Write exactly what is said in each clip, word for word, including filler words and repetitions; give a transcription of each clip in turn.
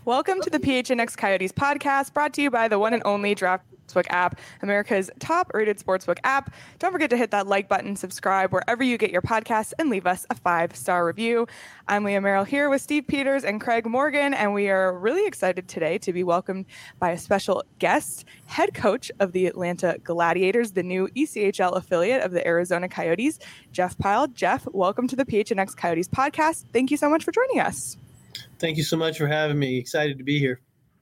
Welcome to the P H N X Coyotes podcast, brought to you by the one and only Draft Sportsbook app, America's top-rated sportsbook app. Don't forget to hit that like button, subscribe wherever you get your podcasts, and leave us a five-star review. I'm Leah Merrill here with Steve Peters and Craig Morgan, and we are really excited today to be welcomed by a special guest, head coach of the Atlanta Gladiators, the new E C H L affiliate of the Arizona Coyotes, Jeff Pyle. Jeff, welcome to the P H N X Coyotes podcast. Thank you so much for joining us. Thank you so much for having me. Excited to be here.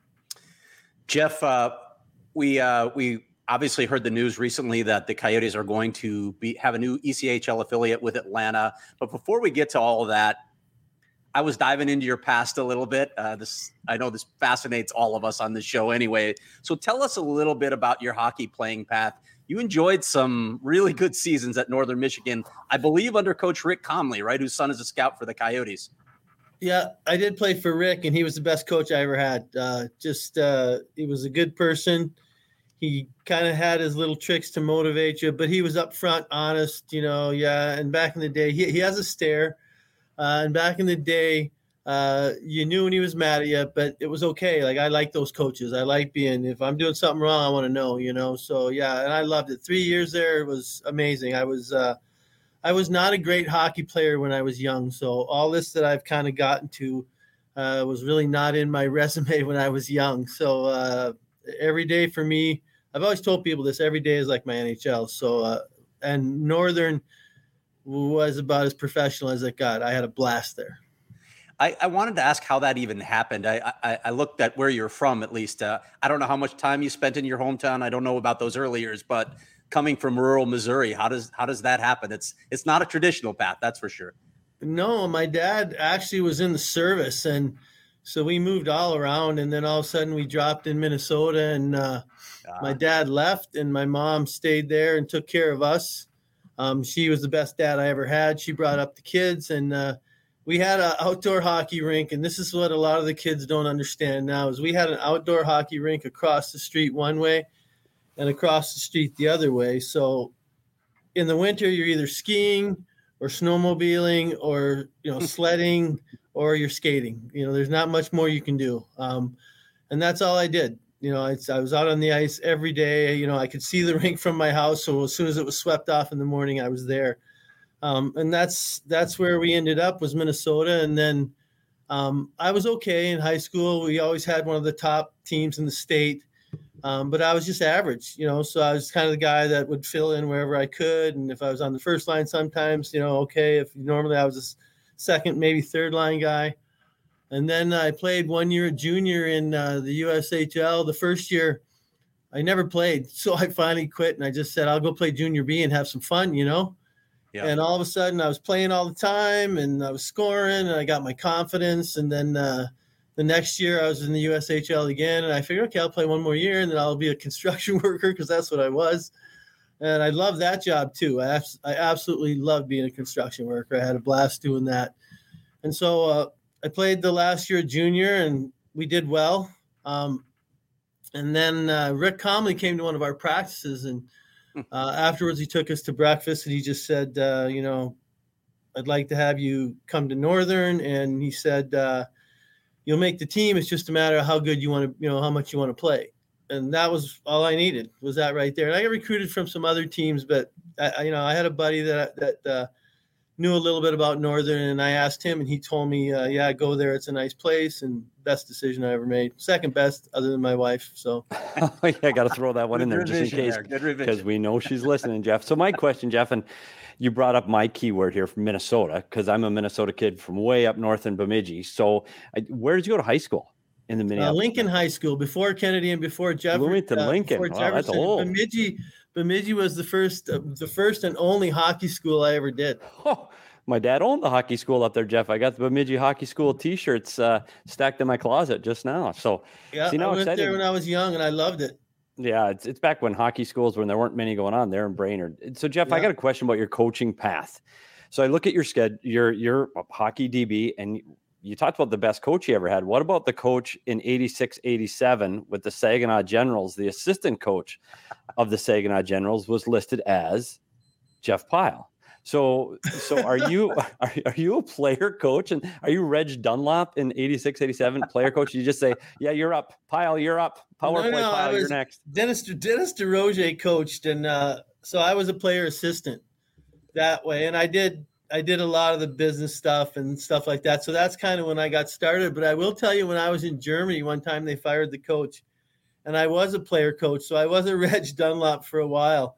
Jeff, uh, we uh, we obviously heard the news recently that the Coyotes are going to be have a new E C H L affiliate with Atlanta. But before we get to all of that, I was diving into your past a little bit. Uh, this I know this fascinates all of us on this show anyway. So tell us a little bit about your hockey playing path. You enjoyed some really good seasons at Northern Michigan, I believe under Coach Rick Comley, right, whose son is a scout for the Coyotes. Yeah, I did play for Rick, and he was the best coach I ever had. Uh, just uh, he was a good person. He kind of had his little tricks to motivate you, but he was upfront, honest, you know, yeah. And back in the day, he, he has a stare. Uh, and back in the day, uh, you knew when he was mad at you, but it was okay. Like, I like those coaches. I like being, if I'm doing something wrong, I want to know, you know. So, yeah, and I loved it. Three years there, it was amazing. I was uh, – I was not a great hockey player when I was young, so all this that I've kind of gotten to uh, was really not in my resume when I was young. So uh, every day for me, I've always told people this, every day is like my N H L. So uh, and Northern was about as professional as it got. I had a blast there. I, I wanted to ask how that even happened. I, I, I looked at where you're from, at least. Uh, I don't know how much time you spent in your hometown. I don't know about those early years, but coming from rural Missouri, how does how does that happen? It's it's not a traditional path, that's for sure. No, my dad actually was in the service, and so we moved all around, and then all of a sudden we dropped in Minnesota, and uh, uh, my dad left, and my mom stayed there and took care of us. Um, she was the best dad I ever had. She brought up the kids, and uh, we had an outdoor hockey rink, and this is what a lot of the kids don't understand now, is we had an outdoor hockey rink across the street one way, and across the street the other way. So in the winter, you're either skiing or snowmobiling or, you know, sledding or you're skating. You know, there's not much more you can do. Um, and that's all I did. You know, it's, I was out on the ice every day. You know, I could see the rink from my house. So as soon as it was swept off in the morning, I was there. Um, and that's, that's where we ended up, was Minnesota. And then um, I was okay in high school. We always had one of the top teams in the state. Um, but I was just average, you know, so I was kind of the guy that would fill in wherever I could. And if I was on the first line sometimes, you know, okay, if normally I was a second, maybe third line guy. And then I played one year at junior in uh, the U S H L. The first year I never played. So I finally quit and I just said, I'll go play junior B and have some fun, you know. Yeah. And all of a sudden I was playing all the time and I was scoring and I got my confidence. And then, uh, the next year I was in the U S H L again, and I figured, okay, I'll play one more year, and then I'll be a construction worker because that's what I was. And I love that job too. I, I absolutely love being a construction worker. I had a blast doing that. And so uh, I played the last year at junior, and we did well. Um, and then uh, Rick Comley came to one of our practices, and uh, afterwards he took us to breakfast, and he just said, uh, you know, I'd like to have you come to Northern. And he said, uh, you'll make the team. It's just a matter of how good you want to, you know, how much you want to play. And that was all I needed, was that right there. And I got recruited from some other teams, but I, you know, I had a buddy that, that uh, knew a little bit about Northern, and I asked him, and he told me, uh, yeah, go there. It's a nice place, and best decision I ever made. Second best other than my wife. So yeah, I got to throw that one in there just in case, because we know she's listening, Jeff. So my question, Jeff, and you brought up my keyword here from Minnesota, because I'm a Minnesota kid from way up north in Bemidji. So I, where did you go to high school? In the Minneapolis? Uh, Lincoln High School, before Kennedy and before Jefferson. Bloomington, uh, Lincoln. Wow, that's old. Bemidji, Bemidji was the first, uh, the first and only hockey school I ever did. Oh, my dad owned the hockey school up there, Jeff. I got the Bemidji Hockey School T-shirts uh, stacked in my closet just now. So yeah, see, now I went excited. there when I was young, and I loved it. Yeah, it's it's back when hockey schools, when there weren't many going on there in Brainerd. So Jeff, yeah. I got a question about your coaching path. So I look at your schedule, your your hockey D B, and you talked about the best coach you ever had. What about the coach in eighty-six eighty-seven with the Saginaw Generals? The assistant coach of the Saginaw Generals was listed as Jeff Pyle. So, so are you are, are you a player coach, and are you Reg Dunlop in eighty-six, eighty-seven player coach? You just say, yeah, you're up, Pyle, you're up, power no, play, no, Pyle, was, you're next. Dennis Dennis DeRoger coached, and uh, so I was a player assistant that way, and I did I did a lot of the business stuff and stuff like that. So that's kind of when I got started. But I will tell you, when I was in Germany, one time they fired the coach, and I was a player coach, so I was a Reg Dunlop for a while,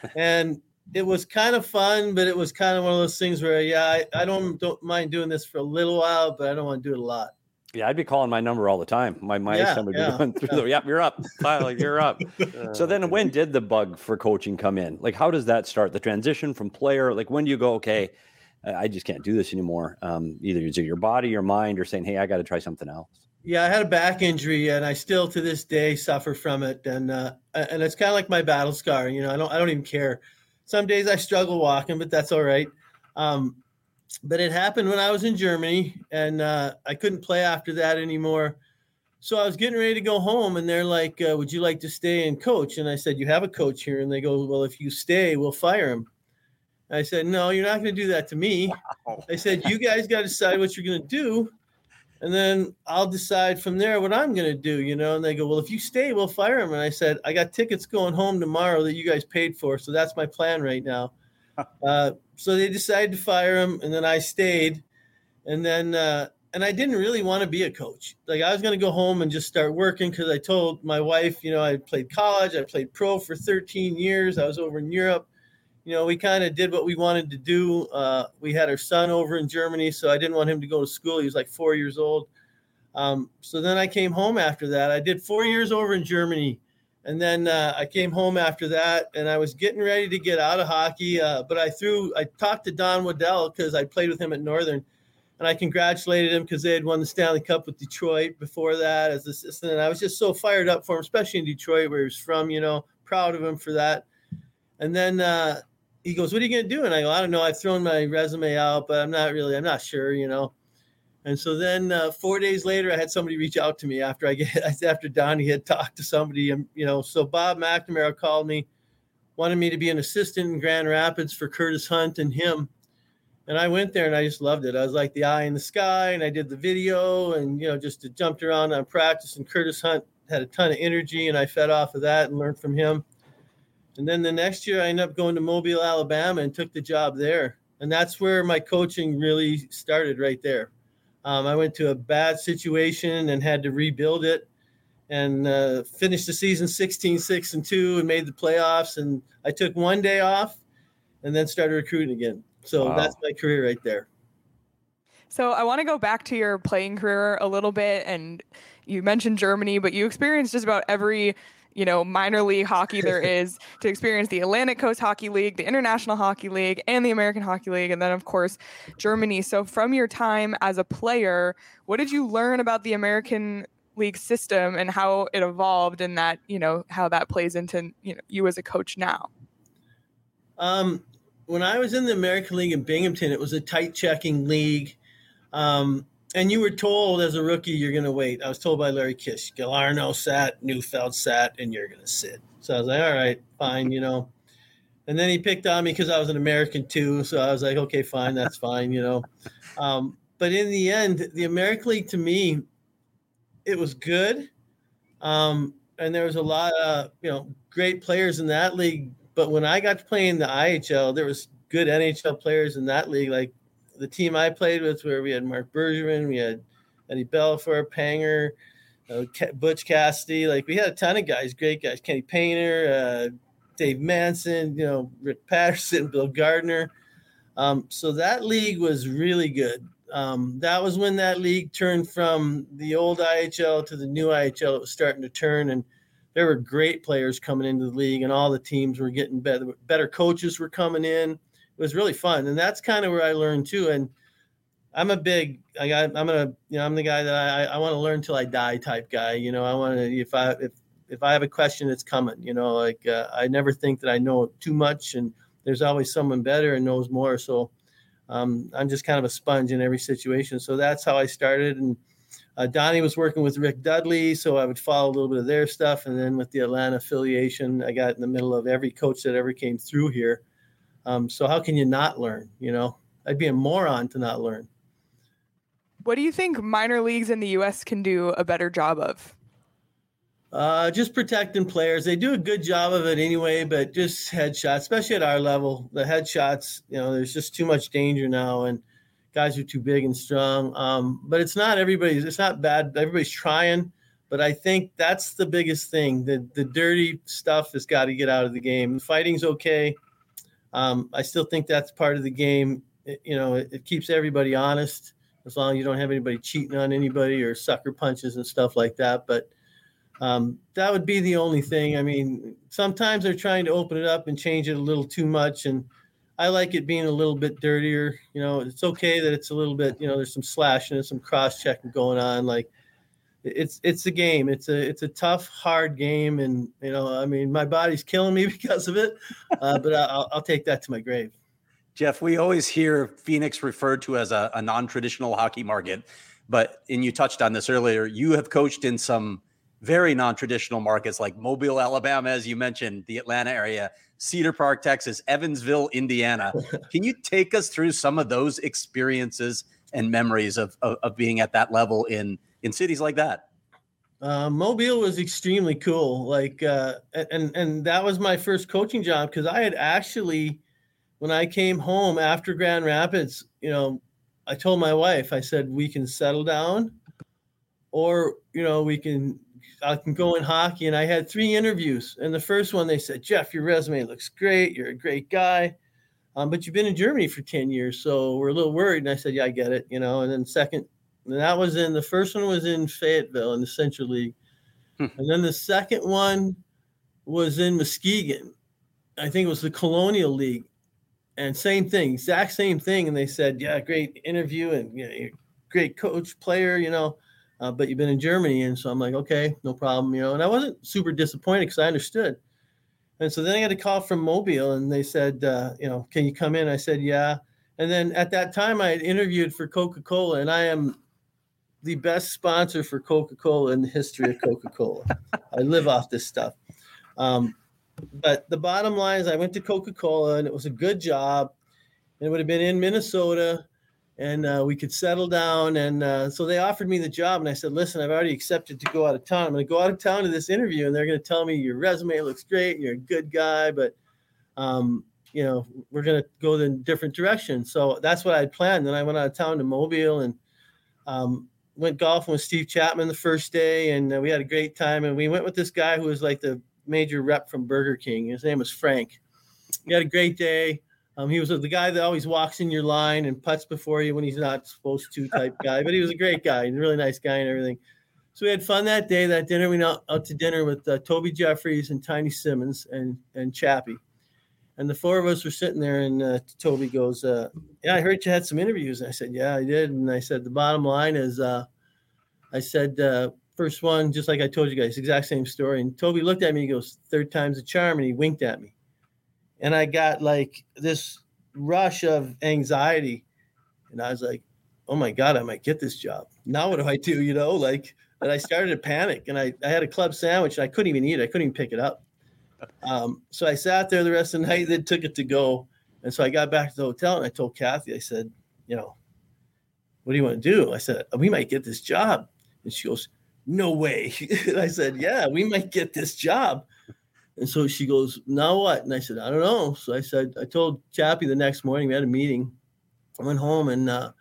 and it was kind of fun, but it was kind of one of those things where, yeah, I, I don't don't mind doing this for a little while, but I don't want to do it a lot. Yeah, I'd be calling my number all the time. My my yeah, son would yeah, be going through yeah. the, yep, you're up, Pyle, you're up. So then when did the bug for coaching come in? Like, how does that start? The transition from player, like when do you go, okay, I just can't do this anymore? Um, either it's your body, your mind, or saying, hey, I got to try something else. Yeah, I had a back injury, and I still to this day suffer from it. And uh, and it's kind of like my battle scar. You know, I don't I don't even care. Some days I struggle walking, but that's all right. Um, but it happened when I was in Germany, and uh, I couldn't play after that anymore. So I was getting ready to go home, and they're like, uh, would you like to stay and coach? And I said, you have a coach here. And they go, well, if you stay, we'll fire him. And I said, no, you're not going to do that to me. Wow. I said, you guys got to decide what you're going to do, and then I'll decide from there what I'm going to do, you know? And they go, well, if you stay, we'll fire him. And I said, I got tickets going home tomorrow that you guys paid for, so that's my plan right now. Uh, so they decided to fire him, and then I stayed. And then, uh, and I didn't really want to be a coach. Like, I was going to go home and just start working, because I told my wife, you know, I played college, I played pro for thirteen years. I was over in Europe. You know, we kind of did what we wanted to do. Uh, we had our son over in Germany, so I didn't want him to go to school. He was like four years old. Um, so then I came home after that. I did four years over in Germany. And then uh, I came home after that, and I was getting ready to get out of hockey. Uh, but I threw, I talked to Don Waddell, because I played with him at Northern, and I congratulated him because they had won the Stanley Cup with Detroit before that as assistant. And I was just so fired up for him, especially in Detroit, where he was from, you know, proud of him for that. And then uh, he goes, what are you going to do? And I go, I don't know. I've thrown my resume out, but I'm not really, I'm not sure, you know. And so then uh, four days later, I had somebody reach out to me after I get after Donnie had talked to somebody, and you know, so Bob McNamara called me, wanted me to be an assistant in Grand Rapids for Curtis Hunt and him. And I went there, and I just loved it. I was like the eye in the sky, and I did the video, and you know, just jumped around on practice. And Curtis Hunt had a ton of energy, and I fed off of that and learned from him. And then the next year, I ended up going to Mobile, Alabama, and took the job there. And that's where my coaching really started, right there. Um, I went to a bad situation and had to rebuild it, and uh, finished the season sixteen, six and two, and made the playoffs. And I took one day off and then started recruiting again. So wow. That's my career right there. So I want to go back to your playing career a little bit. And you mentioned Germany, but you experienced just about every, you know, minor league hockey there is to experience: the Atlantic Coast Hockey League, the International Hockey League, and the American Hockey League. And then, of course, Germany. So from your time as a player, what did you learn about the American League system and how it evolved, and that, you know, how that plays into, you know, you as a coach now? Um, when I was in the American League in Binghamton, it was a tight checking league. Um, And you were told as a rookie, you're going to wait. I was told by Larry Kish, Galarno sat, Neufeld sat, and you're going to sit. So I was like, all right, fine, you know. And then he picked on me because I was an American too. So I was like, okay, fine, that's fine, you know. Um, but in the end, the American League to me, it was good. Um, and there was a lot of, you know, great players in that league. But when I got to play in the I H L, there was good N H L players in that league, like the team I played with, where we had Mark Bergevin, we had Eddie Belfour, Panger, uh, Butch Cassidy. Like, we had a ton of guys, great guys. Kenny Painter, uh, Dave Manson, you know, Rick Patterson, Bill Gardner. Um, so that league was really good. Um, that was when that league turned from the old I H L to the new I H L. It was starting to turn, and there were great players coming into the league, and all the teams were getting better. Better coaches were coming in. It was really fun. And that's kind of where I learned too. And I'm a big, I got, I'm gonna, you know, I'm the guy that I, I want to learn till I die type guy. You know, I want to, if I, if, if I have a question, it's coming, you know, like uh, I never think that I know too much, and there's always someone better and knows more. So um, I'm just kind of a sponge in every situation. So that's how I started. And uh, Donnie was working with Rick Dudley, so I would follow a little bit of their stuff. And then with the Atlanta affiliation, I got in the middle of every coach that ever came through here. Um, so how can you not learn? You know, I'd be a moron to not learn. What do you think minor leagues in the U S can do a better job of? Uh, just protecting players. They do a good job of it anyway, but just headshots, especially at our level, the headshots, you know, there's just too much danger now, and guys are too big and strong. Um, but it's not everybody's, it's not bad. Everybody's trying, but I think that's the biggest thing. The, the dirty stuff has got to get out of the game. Fighting's okay. Um, I still think that's part of the game. It, you know, it, it keeps everybody honest, as long as you don't have anybody cheating on anybody or sucker punches and stuff like that. But um, that would be the only thing. I mean, sometimes they're trying to open it up and change it a little too much. And I like it being a little bit dirtier. You know, it's okay that it's a little bit, you know, there's some slashing and some cross checking going on. Like it's, it's a game. It's a, it's a tough, hard game. And, you know, I mean, my body's killing me because of it, uh, but I'll, I'll take that to my grave. Jeff, we always hear Phoenix referred to as a, a non-traditional hockey market, but, and you touched on this earlier, you have coached in some very non-traditional markets like Mobile, Alabama, as you mentioned, the Atlanta area, Cedar Park, Texas, Evansville, Indiana. Can you take us through some of those experiences and memories of, of, of being at that level in, in cities like that? Uh, Mobile was extremely cool. Like, uh, and, and that was my first coaching job, because I had actually, when I came home after Grand Rapids, you know, I told my wife, I said, we can settle down, or, you know, we can, I can go in hockey. And I had three interviews. And the first one, they said, Jeff, your resume looks great. You're a great guy. Um, but you've been in Germany for ten years. So we're a little worried. And I said, yeah, I get it. You know, and then second, and that was in, the first one was in Fayetteville in the Central League. Hmm. And then the second one was in Muskegon. I think it was the Colonial League. And same thing, exact same thing. And they said, yeah, great interview and you know, you're a great coach, player, you know, uh, but you've been in Germany. And so I'm like, okay, no problem, you know. And I wasn't super disappointed because I understood. And so then I got a call from Mobile, and they said, uh, you know, can you come in? I said, yeah. And then at that time I had interviewed for Coca-Cola, and I am the best sponsor for Coca-Cola in the history of Coca-Cola. I live off this stuff. Um, But the bottom line is I went to Coca-Cola, and it was a good job. And it would have been in Minnesota, and uh, we could settle down. And uh, so they offered me the job, and I said, listen, I've already accepted to go out of town. I'm going to go out of town to this interview, and they're going to tell me your resume looks great, and you're a good guy, but, um, you know, we're going to go in a different direction. So that's what I had planned. Then I went out of town to Mobile and um, went golfing with Steve Chapman the first day, and uh, we had a great time. And we went with this guy who was like the major rep from Burger King. His name was Frank. He had a great day. Um, he was the guy that always walks in your line and putts before you when he's not supposed to type guy, but he was a great guy, a really nice guy and everything. So we had fun that day. That dinner, we went out, out to dinner with uh, Toby Jeffries and Tiny Simmons and, and Chappie. And the four of us were sitting there, and uh, Toby goes, uh, yeah, I heard you had some interviews. And I said, yeah, I did. And I said, the bottom line is, uh, I said, uh, first one, just like I told you guys, exact same story. And Toby looked at me, he goes, third time's a charm, and he winked at me. And I got like this rush of anxiety. And I was like, oh my God, I might get this job. Now what do I do? You know, like, and I started to panic, and I, I had a club sandwich, and I couldn't even eat it. I couldn't even pick it up. Um, so I sat there the rest of the night, then took it to go. And so I got back to the hotel, and I told Kathy, I said, you know, what do you want to do? I said, we might get this job. And she goes, no way. And I said, yeah, we might get this job. And so she goes, now what? And I said, I don't know. So I said, I told Chappie the next morning, we had a meeting. I went home, and uh,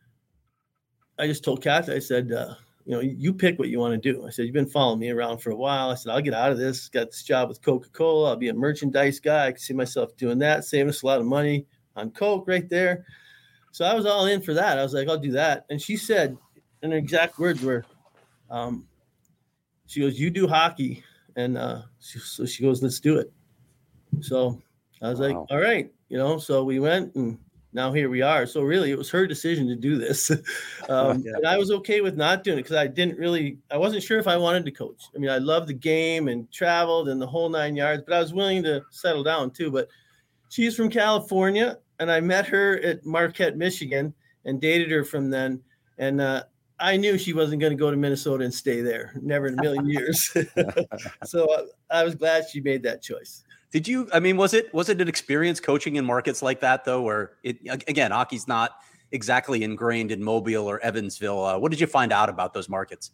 I just told Kathy, I said, uh, you know, you pick what you want to do. I said, you've been following me around for a while. I said, I'll get out of this. Got this job with Coca-Cola. I'll be a merchandise guy. I can see myself doing that, saving us a lot of money on Coke right there. So I was all in for that. I was like, I'll do that. And she said, and her exact words were, um, she goes, you do hockey. And uh, she, so she goes, let's do it. So I was wow. like, all right, you know, so we went, and now here we are. So really it was her decision to do this. um, yeah. And I was okay with not doing it because I didn't really, I wasn't sure if I wanted to coach. I mean, I loved the game and traveled and the whole nine yards, but I was willing to settle down too. But she's from California, and I met her at Marquette, Michigan, and dated her from then. And uh, I knew she wasn't going to go to Minnesota and stay there. Never in a million years. So uh, I was glad she made that choice. Did you, I mean, was it, was it an experience coaching in markets like that though, where it, again, hockey's not exactly ingrained in Mobile or Evansville? Uh, what did you find out about those markets?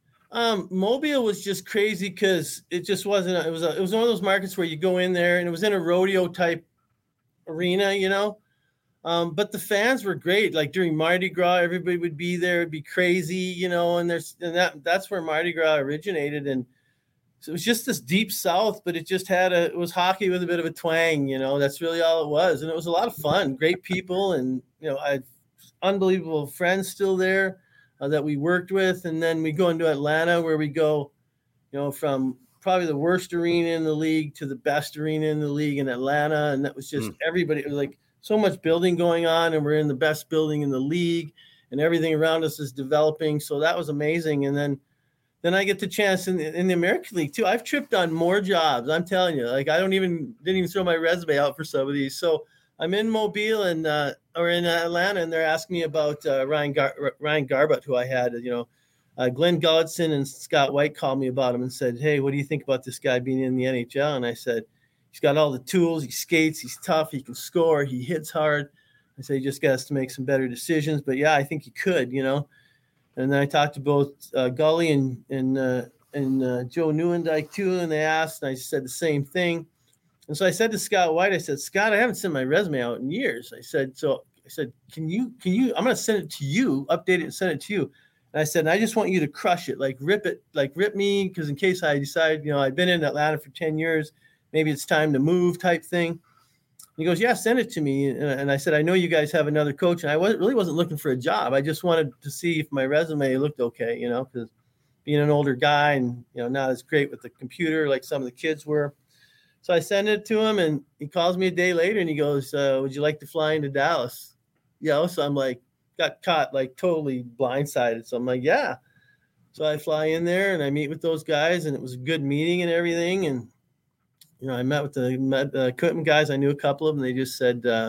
Um, Mobile was just crazy because it just wasn't, it was, a, it was one of those markets where you go in there and it was in a rodeo type arena, you know? Um, but the fans were great. Like during Mardi Gras, everybody would be there. It'd be crazy, you know, and there's, and that, that's where Mardi Gras originated. And so it was just this deep South, but it just had a, it was hockey with a bit of a twang, you know, that's really all it was. And it was a lot of fun, great people. And, you know, I had unbelievable friends still there uh, that we worked with. And then we go into Atlanta where we go, you know, from probably the worst arena in the league to the best arena in the league in Atlanta. And that was just mm. everybody. It was like so much building going on, and we're in the best building in the league, and everything around us is developing. So that was amazing. And then, then I get the chance in the, in the American League too. I've tripped on more jobs. I'm telling you, like I don't even, didn't even throw my resume out for some of these. So I'm in Mobile and, uh, or in Atlanta, and they're asking me about uh, Ryan, Gar- Ryan Garbutt, who I had, you know, uh, Glenn Gulletson and Scott White called me about him and said, "Hey, what do you think about this guy being in the N H L?" And I said, "He's got all the tools. He skates. He's tough. He can score. He hits hard." I said, "He just got to make some better decisions." But yeah, I think he could, you know. And then I talked to both uh, Gully and and uh, and uh, Joe Newendike too, and they asked, and I said the same thing. And so I said to Scott White, I said, "Scott, I haven't sent my resume out in years." I said, "So I said, can you can you? I'm going to send it to you, update it, and send it to you." And I said, "And I just want you to crush it, like rip it, like rip me, because in case I decide, you know, I've been in Atlanta for ten years, maybe it's time to move, type thing." He goes, "Yeah, send it to me." And I said, "I know you guys have another coach." And I wasn't, really wasn't looking for a job. I just wanted to see if my resume looked okay, you know, because being an older guy and, you know, not as great with the computer like some of the kids were. So I sent it to him, and he calls me a day later and he goes, uh, "Would you like to fly into Dallas?" You know, so I'm like, got caught like totally blindsided. So I'm like, yeah. So I fly in there and I meet with those guys, and it was a good meeting and everything. And you know, I met with the met, uh, equipment guys. I knew a couple of them. They just said, uh,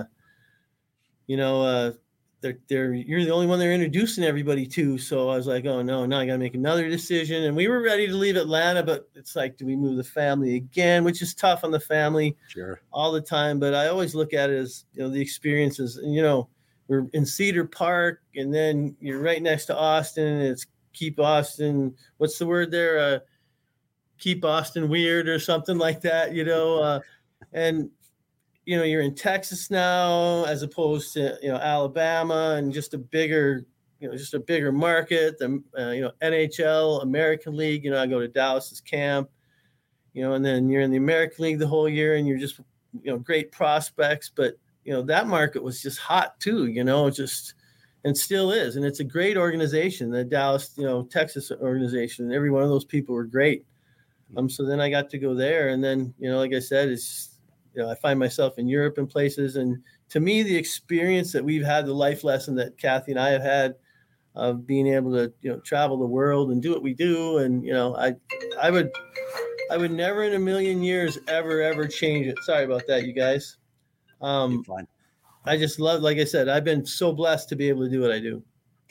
you know, uh, they're, they're, you're the only one they're introducing everybody to. So I was like, oh no, now I got to make another decision. And we were ready to leave Atlanta, but it's like, do we move the family again? Which is tough on the family sure. all the time. But I always look at it as, you know, the experiences. And, you know, we're in Cedar Park, and then you're right next to Austin, and it's keep Austin. What's the word there? Uh, keep Austin weird or something like that, you know, uh, and, you know, you're in Texas now, as opposed to, you know, Alabama, and just a bigger, you know, just a bigger market, the, uh, you know, N H L, American League, you know, I go to Dallas's camp, you know, and then you're in the American League the whole year, and you're just, you know, great prospects, but, you know, that market was just hot too, you know, just, and still is. And it's a great organization, the Dallas, you know, Texas organization, and every one of those people were great. Um, so then I got to go there, and then, you know, like I said, it's, you know, I find myself in Europe and places. And to me, the experience that we've had, the life lesson that Kathy and I have had of being able to, you know, travel the world and do what we do. And, you know, I, I would, I would never in a million years, ever, ever change it. Sorry about that, you guys. Um, I just love, like I said, I've been so blessed to be able to do what I do.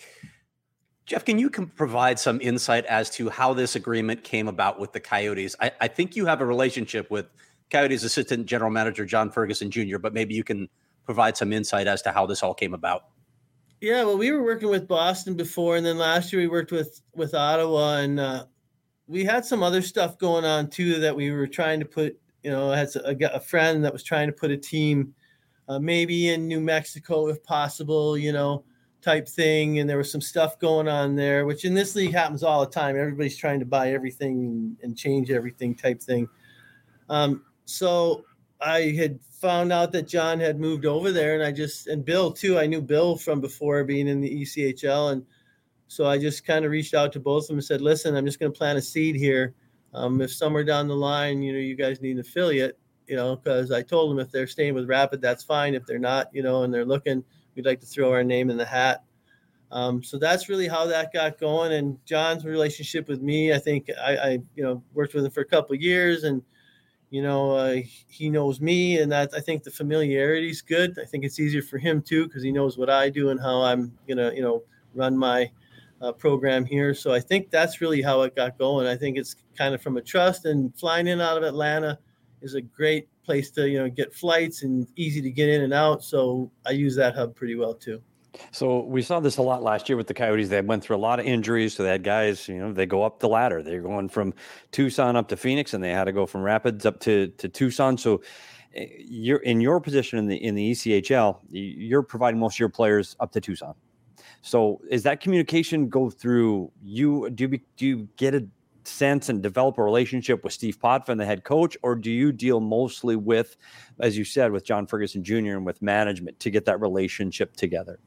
Jeff, can you com- provide some insight as to how this agreement came about with the Coyotes? I, I think you have a relationship with Coyotes assistant general manager John Ferguson Junior, but maybe you can provide some insight as to how this all came about. Yeah, well, we were working with Boston before, and then last year we worked with, with Ottawa, and uh, we had some other stuff going on too that we were trying to put, you know, I had a, a friend that was trying to put a team uh, maybe in New Mexico if possible, you know, type thing. And there was some stuff going on there, which in this league happens all the time. Everybody's trying to buy everything and change everything type thing. Um, so I had found out that John had moved over there, and I just, and Bill too, I knew Bill from before being in the E C H L. And so I just kind of reached out to both of them and said, listen, I'm just going to plant a seed here. Um, if somewhere down the line, you know, you guys need an affiliate, you know, because I told them if they're staying with Rapid, that's fine. If they're not, you know, and they're looking, we'd like to throw our name in the hat. Um, so that's really how that got going. And John's relationship with me, I think I, I you know, worked with him for a couple of years, and, you know, uh, he knows me, and that I think the familiarity is good. I think it's easier for him too, because he knows what I do and how I'm going to, you know, run my uh, program here. So I think that's really how it got going. I think it's kind of from a trust, and flying in out of Atlanta, is a great place to, you know, get flights and easy to get in and out. So I use that hub pretty well too. So we saw this a lot last year with the Coyotes. They went through a lot of injuries. So they had guys, you know, they go up the ladder. They're going from Tucson up to Phoenix, and they had to go from Rapids up to, to Tucson. So you're in your position in the in the E C H L, you're providing most of your players up to Tucson. So is that communication go through you? Do you, do you get a sense and develop a relationship with Steve Potvin, the head coach, or do you deal mostly with, as you said, with John Ferguson Junior and with management to get that relationship together?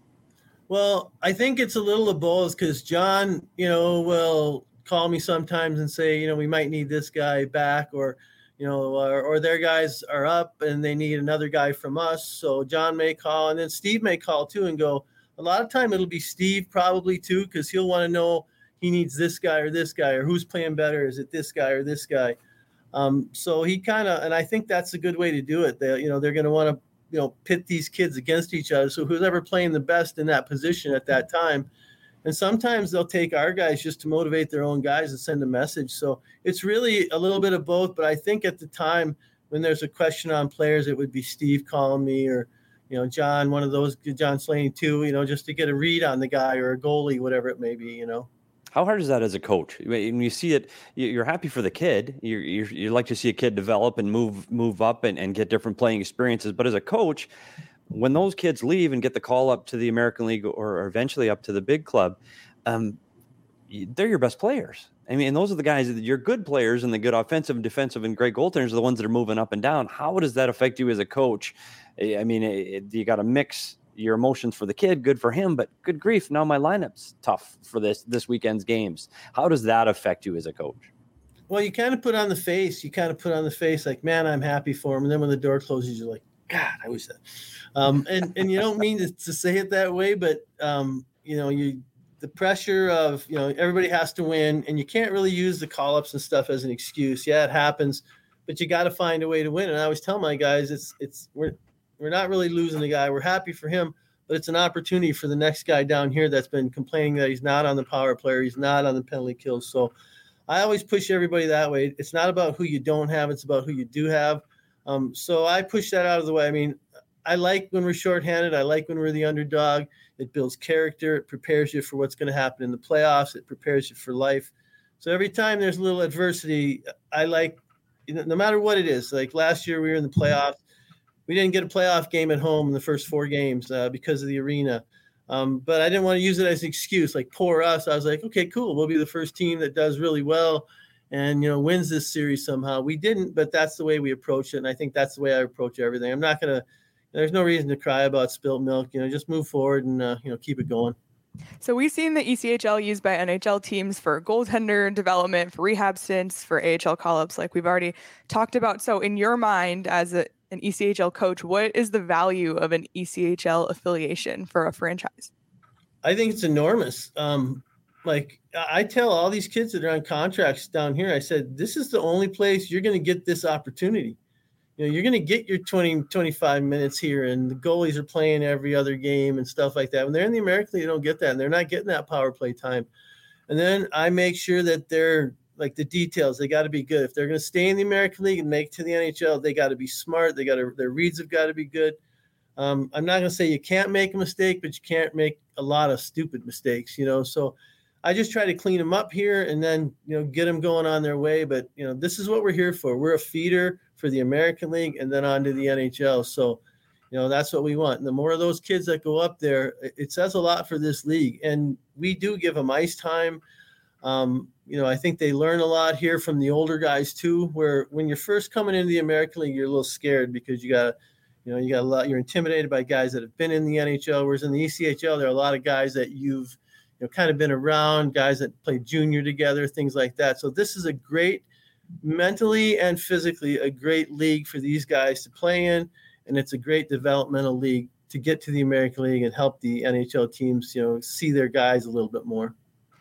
Well, I think it's a little of both, because John, you know, will call me sometimes and say, you know, we might need this guy back, or, you know, or, or their guys are up and they need another guy from us. So John may call, and then Steve may call too and go. A lot of time it'll be Steve probably too, because he'll want to know he needs this guy or this guy, or who's playing better. Is it this guy or this guy? Um, so he kind of, and I think that's a good way to do it. They, you know, they're going to want to, you know, pit these kids against each other. So who's ever playing the best in that position at that time. And sometimes they'll take our guys just to motivate their own guys and send a message. So it's really a little bit of both. But I think at the time when there's a question on players, it would be Steve calling me, or, you know, John, one of those, John Slaney too, you know, just to get a read on the guy or a goalie, whatever it may be, you know. How hard is that as a coach? When you see it, you're happy for the kid. You you like to see a kid develop and move move up and, and get different playing experiences. But as a coach, when those kids leave and get the call up to the American League or eventually up to the big club, um, they're your best players. I mean, and those are the guys that you're good players, and the good offensive and defensive and great goaltenders are the ones that are moving up and down. How does that affect you as a coach? I mean, it, you got to mix your emotions for the kid, good for him, but good grief, now my lineup's tough for this this weekend's games. How does that affect you as a coach? Well, you kind of put on the face. You kind of put on the face like, man, I'm happy for him. And then when the door closes, you're like, God, I wish that. Um, and and you don't mean to, to say it that way, but um, you know, you the pressure of, you know, everybody has to win, and you can't really use the call-ups and stuff as an excuse. Yeah, it happens, but you got to find a way to win. And I always tell my guys, it's it's we're We're not really losing the guy. We're happy for him, but it's an opportunity for the next guy down here that's been complaining that he's not on the power play, he's not on the penalty kills. So I always push everybody that way. It's not about who you don't have. It's about who you do have. Um, so I push that out of the way. I mean, I like when we're shorthanded. I like when we're the underdog. It builds character. It prepares you for what's going to happen in the playoffs. It prepares you for life. So every time there's a little adversity, I like, you know, no matter what it is. Like last year we were in the playoffs. We didn't get a playoff game at home in the first four games uh, because of the arena. Um, but I didn't want to use it as an excuse, like poor us. I was like, okay, cool. We'll be the first team that does really well and, you know, wins this series somehow. We didn't, but that's the way we approach it. And I think that's the way I approach everything. I'm not going to, there's no reason to cry about spilt milk, you know, just move forward and, uh, you know, keep it going. So we've seen the E C H L used by N H L teams for goaltender development, for rehab stints, for A H L call-ups, like we've already talked about. So in your mind as a, an E C H L coach, what is the value of an E C H L affiliation for a franchise? I think it's enormous. Um, like I tell all these kids that are on contracts down here, I said, this is the only place you're going to get this opportunity. You know, you're going to get your twenty, twenty-five minutes here, and the goalies are playing every other game and stuff like that. When they're in the American League, they don't get that, and they're not getting that power play time. And then I make sure that they're like the details, they got to be good. If they're going to stay in the American League and make it to the N H L, they got to be smart. They got to, their reads have got to be good. Um, I'm not going to say you can't make a mistake, but you can't make a lot of stupid mistakes, you know? So I just try to clean them up here and then, you know, get them going on their way. But, you know, this is what we're here for. We're a feeder for the American League and then on to the N H L. So, you know, that's what we want. And the more of those kids that go up there, it says a lot for this league. And we do give them ice time. Um, you know, I think they learn a lot here from the older guys too, where when you're first coming into the American League, you're a little scared because you got, you know, you got a lot, you're intimidated by guys that have been in the N H L, whereas in the E C H L, there are a lot of guys that you've, you know, kind of been around, guys that play junior together, things like that. So this is a great, mentally and physically, a great league for these guys to play in. And it's a great developmental league to get to the American League and help the N H L teams, you know, see their guys a little bit more.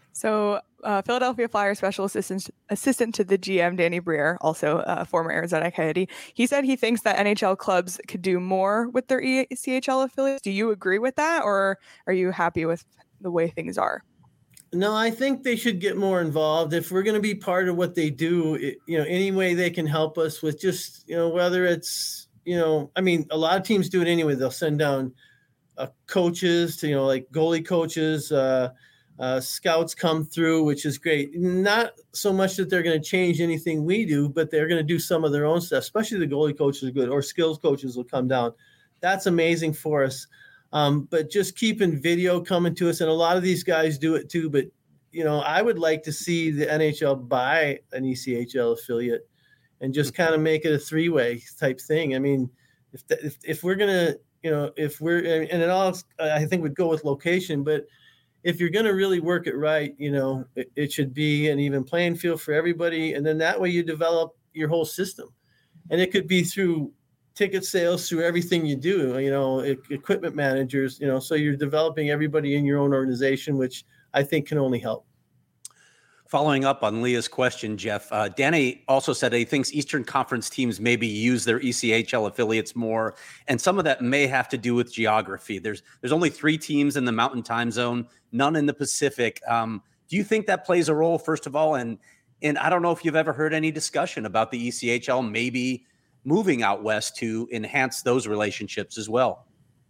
So uh, Philadelphia Flyers special assistant assistant to the G M, Danny Briere, also a former Arizona Coyote, he said he thinks that N H L clubs could do more with their E C H L affiliates. Do you agree with that, or are you happy with the way things are? No, I think they should get more involved. If we're going to be part of what they do, it, you know, any way they can help us with just, you know, whether it's, you know, I mean, a lot of teams do it anyway. They'll send down uh, coaches to, you know, like goalie coaches, uh, uh, scouts come through, which is great. Not so much that they're going to change anything we do, but they're going to do some of their own stuff, especially the goalie coaches are good, or skills coaches will come down. That's amazing for us. Um, but just keeping video coming to us, and a lot of these guys do it too. But, you know, I would like to see the N H L buy an E C H L affiliate and just kind of make it a three-way type thing. I mean, if the, if, if we're going to, you know, if we're, and it all, I think would go with location, but if you're going to really work it right, you know, it, it should be an even playing field for everybody. And then that way you develop your whole system. And it could be through ticket sales, through everything you do, you know, equipment managers, you know, so you're developing everybody in your own organization, which I think can only help. Following up on Leah's question, Jeff, uh, Danny also said he thinks Eastern Conference teams maybe use their E C H L affiliates more, and some of that may have to do with geography. There's there's only three teams in the Mountain Time Zone, none in the Pacific. Um, do you think that plays a role, first of all? And and I don't know if you've ever heard any discussion about the E C H L maybe moving out west to enhance those relationships as well.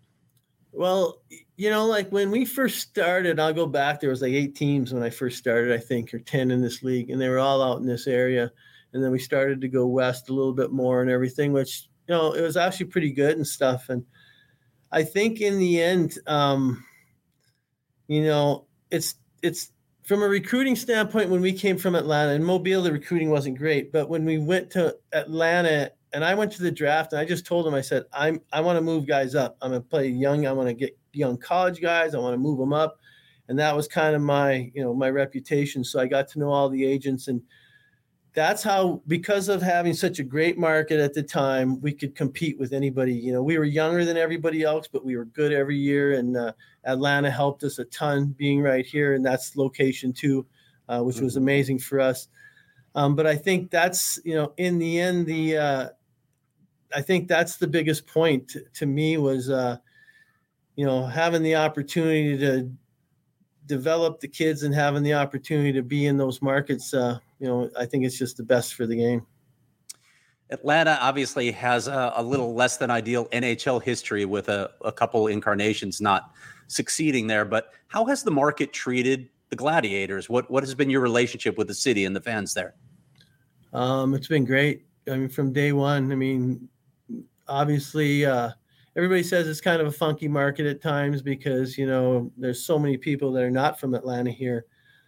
Well, you know, like when we first started, I'll go back, there was like eight teams when I first started, I think, or ten in this league, and they were all out in this area. And then we started to go west a little bit more and everything, which, you know, it was actually pretty good and stuff. And I think in the end, um, you know, it's, it's from a recruiting standpoint, when we came from Atlanta, and Mobile, the recruiting wasn't great, but when we went to Atlanta, and I went to the draft, and I just told them, I said, I'm, I want to move guys up. I'm going to play young. I want to get young college guys. I want to move them up. And that was kind of my, you know, my reputation. So I got to know all the agents, and that's how, because of having such a great market at the time, we could compete with anybody. You know, we were younger than everybody else, but we were good every year. And uh, Atlanta helped us a ton being right here. And that's location too, uh, which was amazing for us. Um, but I think that's, you know, in the end, the, uh, I think that's the biggest point to, to me was, uh, you know, having the opportunity to develop the kids and having the opportunity to be in those markets. Uh, you know, I think it's just the best for the game. Atlanta obviously has a, a little less than ideal N H L history with a, a couple incarnations not succeeding there. But how has the market treated the Gladiators? What what has been your relationship with the city and the fans there? Um, it's been great. I mean, from day one, I mean, obviously, uh, everybody says it's kind of a funky market at times because, you know, there's so many people that are not from Atlanta here.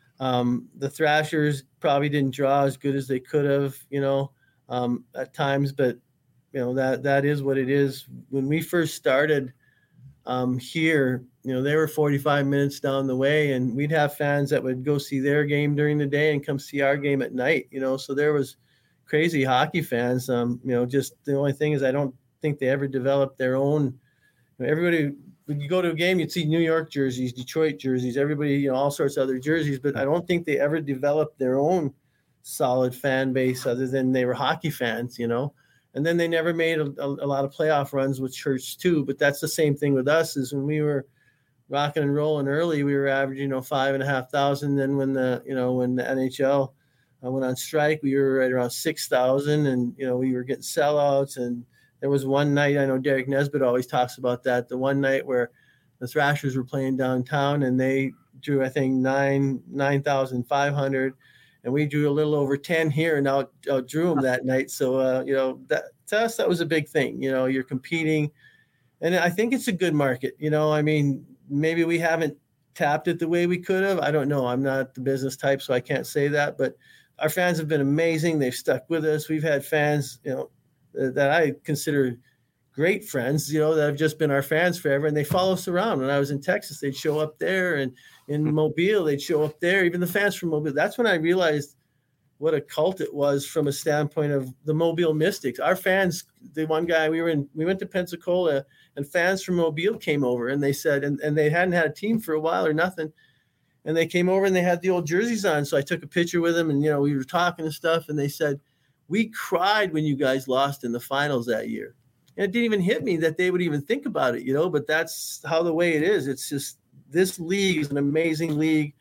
Um, the Thrashers probably didn't draw as good as they could have, you know, um, at times, but, you know, that that is what it is. When we first started um, here, you know, they were forty-five minutes down the way, and we'd have fans that would go see their game during the day and come see our game at night, you know, so there was crazy hockey fans. Um, you know, just the only thing is I don't think they ever developed their own. You know, everybody, when you go to a game, you'd see New York jerseys, Detroit jerseys, everybody, you know, all sorts of other jerseys, but I don't think they ever developed their own solid fan base other than they were hockey fans, you know. And then they never made a, a, a lot of playoff runs with church too. But that's the same thing with us. Is when we were rocking and rolling early, we were averaging, you know, five and a half thousand. Then when the, you know, when the N H L uh, went on strike, we were right around six thousand, and you know, we were getting sellouts. And there was one night, I know Derek Nesbitt always talks about that. The one night where the Thrashers were playing downtown, and they drew, I think, nine nine thousand five hundred. And we drew a little over ten here and out, out drew them that night. So, uh, you know, that to us, that was a big thing. You know, you're competing. And I think it's a good market. You know, I mean, maybe we haven't tapped it the way we could have. I don't know. I'm not the business type, so I can't say that. But our fans have been amazing. They've stuck with us. We've had fans, you know, that I consider great friends, you know, that have just been our fans forever. And they follow us around. When I was in Texas, they'd show up there, and in Mobile, they'd show up there, even the fans from Mobile. That's when I realized what a cult it was from a standpoint of the Mobile Mystics. Our fans, the one guy, we were in, we went to Pensacola, and fans from Mobile came over, and they said, and, and they hadn't had a team for a while or nothing. And they came over and they had the old jerseys on. So I took a picture with them, and, you know, we were talking and stuff, and they said, we cried when you guys lost in the finals that year. And it didn't even hit me that they would even think about it, you know, but that's how the way it is. It's just, this league is an amazing league.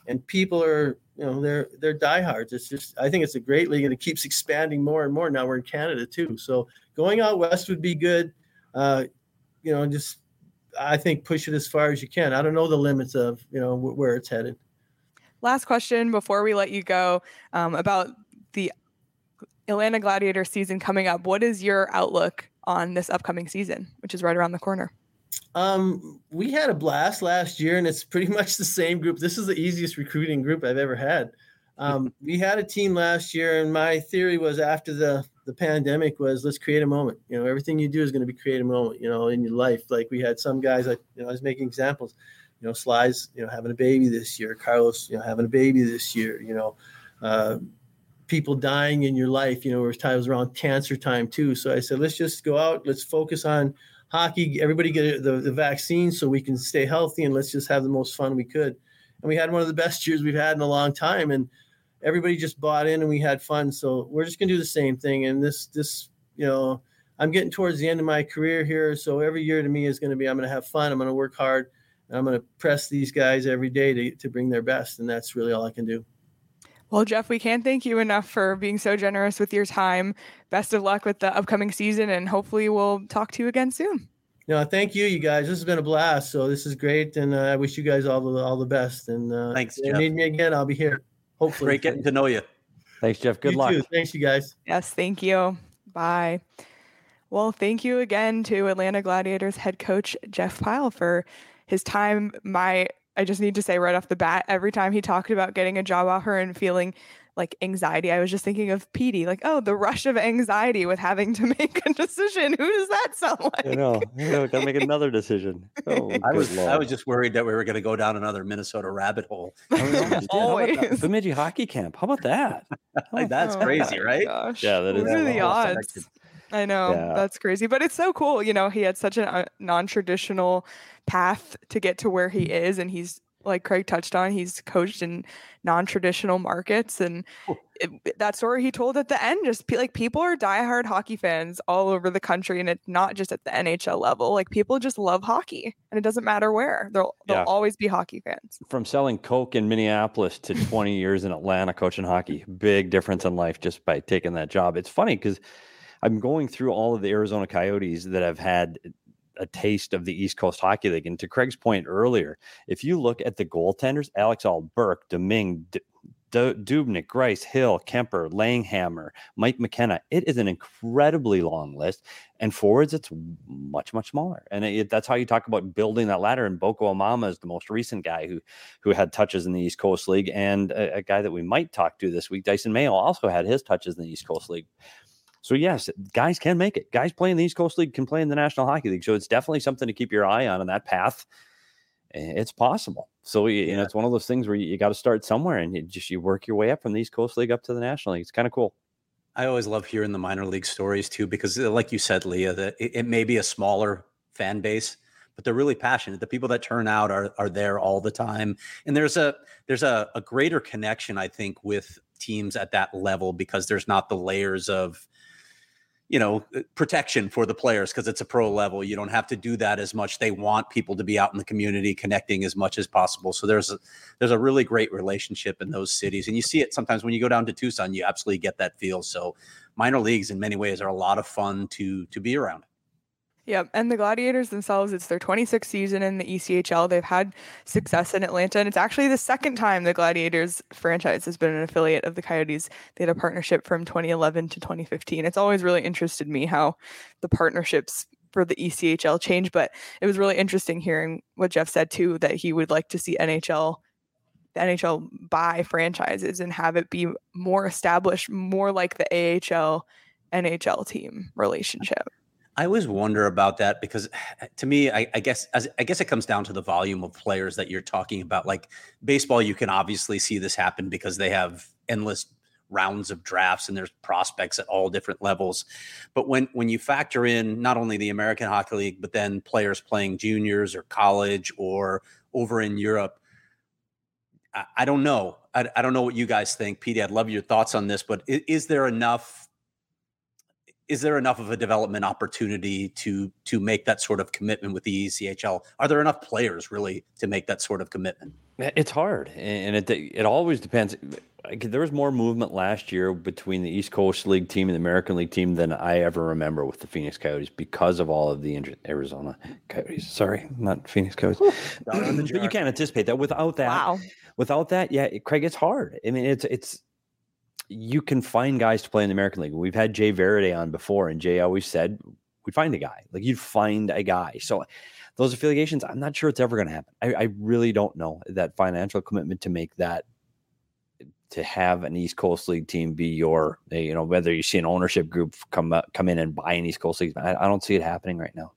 and people are, you know, they're they're diehards. It's just, I think it's a great league, and it keeps expanding more and more. Now we're in Canada too, so going out west would be good. Uh, you know, just I think push it as far as you can. I don't know the limits of, you know, w- where it's headed. Last question before we let you go, um, about the Atlanta Gladiator season coming up. What is your outlook on this upcoming season, which is right around the corner? Um, we had a blast last year, and it's pretty much the same group. This is the easiest recruiting group I've ever had. Um, we had a team last year, and my theory was after the, the pandemic was, let's create a moment. You know, everything you do is going to be create a moment, you know, in your life. Like we had some guys, like, you know, I was making examples, you know, Sly's, you know, having a baby this year, Carlos, you know, having a baby this year, you know, uh, people dying in your life, you know, it was around cancer time too. So I said, let's just go out, let's focus on hockey, everybody get the, the vaccine so we can stay healthy, and let's just have the most fun we could. And we had one of the best years we've had in a long time, and everybody just bought in and we had fun. So we're just going to do the same thing. And this, this, you know, I'm getting towards the end of my career here. So every year to me is going to be, I'm going to have fun. I'm going to work hard, and I'm going to press these guys every day to, to bring their best. And that's really all I can do. Well, Jeff, we can't thank you enough for being so generous with your time. Best of luck with the upcoming season, and hopefully we'll talk to you again soon. No, thank you, you guys. This has been a blast. So this is great, and uh, I wish you guys all the all the best. And uh, thanks, if you Jeff. need me again, I'll be here. Hopefully. Great getting to know you. Thanks, Jeff. Good you luck. Too. Thanks, you guys. Yes, thank you. Bye. Well, thank you again to Atlanta Gladiators head coach Jeff Pyle for his time. My, I just need to say right off the bat, every time he talked about getting a job offer and feeling like anxiety, I was just thinking of Petey, like, oh, the rush of anxiety with having to make a decision. Who does that sound like? I know. I know. Got to make another decision. Oh, I was Lord. I was just worried that we were going to go down another Minnesota rabbit hole. Always. Bemidji hockey camp. How about that? Like, that's Oh crazy, my right? Gosh. Yeah, that is What are the well odds? selected. I know. Yeah. That's crazy. But it's so cool. You know, he had such a non-traditional path to get to where he is. And he's, like Craig touched on, he's coached in non-traditional markets. And it, that story he told at the end, just like people are diehard hockey fans all over the country. And it's not just at the N H L level. Like people just love hockey, and it doesn't matter where. They'll, they'll Yeah. always be hockey fans. From selling Coke in Minneapolis to twenty years in Atlanta coaching hockey, big difference in life just by taking that job. It's funny because I'm going through all of the Arizona Coyotes that have had a taste of the East Coast Hockey League. And to Craig's point earlier, if you look at the goaltenders, Alex Ahl, Burke, Domingue, D- D- Dubnyk, Grice, Hill, Kemper, Langhammer, Mike McKenna, it is an incredibly long list. And forwards, it's much, much smaller. And it, that's how you talk about building that ladder. And Boko Amama is the most recent guy who who had touches in the East Coast League. And a, a guy that we might talk to this week, Dyson Mayo, also had his touches in the East Coast League. So, yes, guys can make it. Guys playing the East Coast League can play in the National Hockey League. So it's definitely something to keep your eye on in that path. It's possible. So, you Yeah. know, it's one of those things where you, you got to start somewhere, and you just you work your way up from the East Coast League up to the National League. It's kind of cool. I always love hearing the minor league stories too, because like you said, Leah, that it, it may be a smaller fan base, but they're really passionate. The people that turn out are are there all the time. And there's a there's a, a greater connection, I think, with teams at that level, because there's not the layers of, you know, protection for the players, because it's a pro level. You don't have to do that as much. They want people to be out in the community connecting as much as possible. So there's a, there's a really great relationship in those cities. And you see it sometimes when you go down to Tucson, you absolutely get that feel. So minor leagues in many ways are a lot of fun to, to be around. Yep. And the Gladiators themselves, it's their twenty-sixth season in the E C H L. They've had success in Atlanta, and it's actually the second time the Gladiators franchise has been an affiliate of the Coyotes. They had a partnership from twenty eleven to twenty fifteen. It's always really interested me how the partnerships for the E C H L change, but it was really interesting hearing what Jeff said too, that he would like to see N H L, the N H L buy franchises and have it be more established, more like the A H L N H L team relationship. I always wonder about that, because to me, I, I guess as, I guess it comes down to the volume of players that you're talking about. Like baseball, you can obviously see this happen because they have endless rounds of drafts and there's prospects at all different levels. But when when you factor in not only the American Hockey League, but then players playing juniors or college or over in Europe, I, I don't know. I, I don't know what you guys think. Petey, I'd love your thoughts on this, but is, is there enough is there enough of a development opportunity to to make that sort of commitment with the E C H L? Are there enough players really to make that sort of commitment? It's hard, and it it always depends. Like, there was more movement last year between the East Coast League team and the American League team than I ever remember with the Phoenix Coyotes because of all of the Arizona Coyotes. Sorry, not Phoenix Coyotes. But you can't anticipate that. Without that, wow. without that, yeah, Craig, it's hard. I mean, it's it's you can find guys to play in the American League. We've had Jay Verade on before, and Jay always said we'd find a guy. Like, you'd find a guy. So those affiliations, I'm not sure it's ever going to happen. I, I really don't know that financial commitment to make that, to have an East Coast League team be your, you know, whether you see an ownership group come up, come in and buy an East Coast League. I, I don't see it happening right now.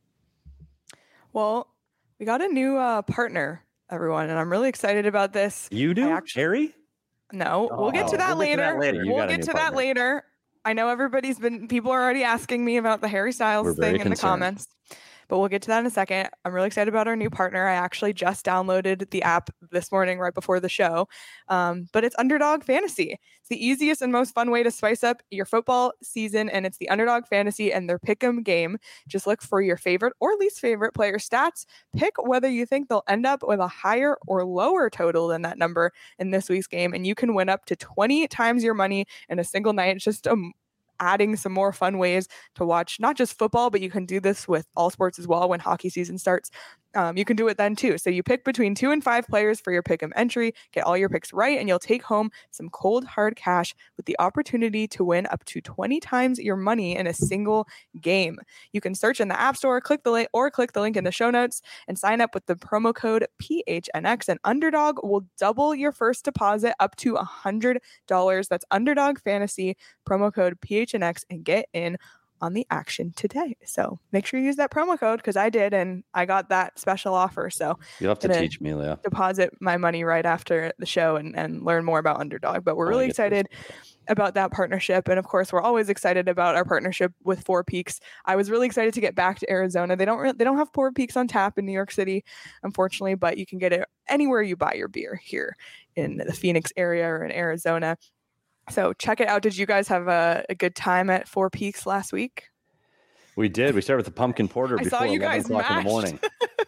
Well, we got a new uh, partner, everyone, and I'm really excited about this. You do, actually, Harry? No, oh, we'll get to that we'll later. Get to that later. We'll get to partner. that later. I know everybody's been, people are already asking me about the Harry Styles We're thing in concerned. the comments, but we'll get to that in a second. I'm really excited about our new partner. I actually just downloaded the app this morning right before the show, um, but it's Underdog Fantasy. It's the easiest and most fun way to spice up your football season, and it's the Underdog Fantasy and their Pick'em game. Just look for your favorite or least favorite player stats. Pick whether you think they'll end up with a higher or lower total than that number in this week's game, and you can win up to twenty times your money in a single night. It's just a adding some more fun ways to watch not just football, but you can do this with all sports as well when hockey season starts. Um, you can do it then too. So you pick between two and five players for your pick'em entry, get all your picks right, and you'll take home some cold hard cash with the opportunity to win up to twenty times your money in a single game. You can search in the App Store, click the link, or click the link in the show notes and sign up with the promo code P H N X. And Underdog will double your first deposit up to one hundred dollars. That's Underdog Fantasy, promo code P H N X, and get in on the action today. So make sure you use that promo code, because I did, and I got that special offer. So you'll have to teach me, Leah. Deposit my money right after the show and, and learn more about Underdog. But we're really excited about that partnership. And of course, we're always excited about our partnership with Four Peaks. I was really excited to get back to Arizona. They don't re- they don't have Four Peaks on tap in New York City, unfortunately, but you can get it anywhere you buy your beer here in the Phoenix area or in Arizona. So check it out. Did you guys have a, a good time at Four Peaks last week? We did. We started with the pumpkin porter I before saw you eleven guys o'clock in the morning.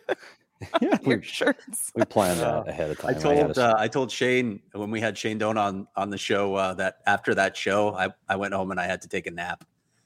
yeah, we, your shirts. we planned that ahead of time. I told I, uh, I told Shane when we had Shane Doan on on the show uh, that after that show, I, I went home and I had to take a nap.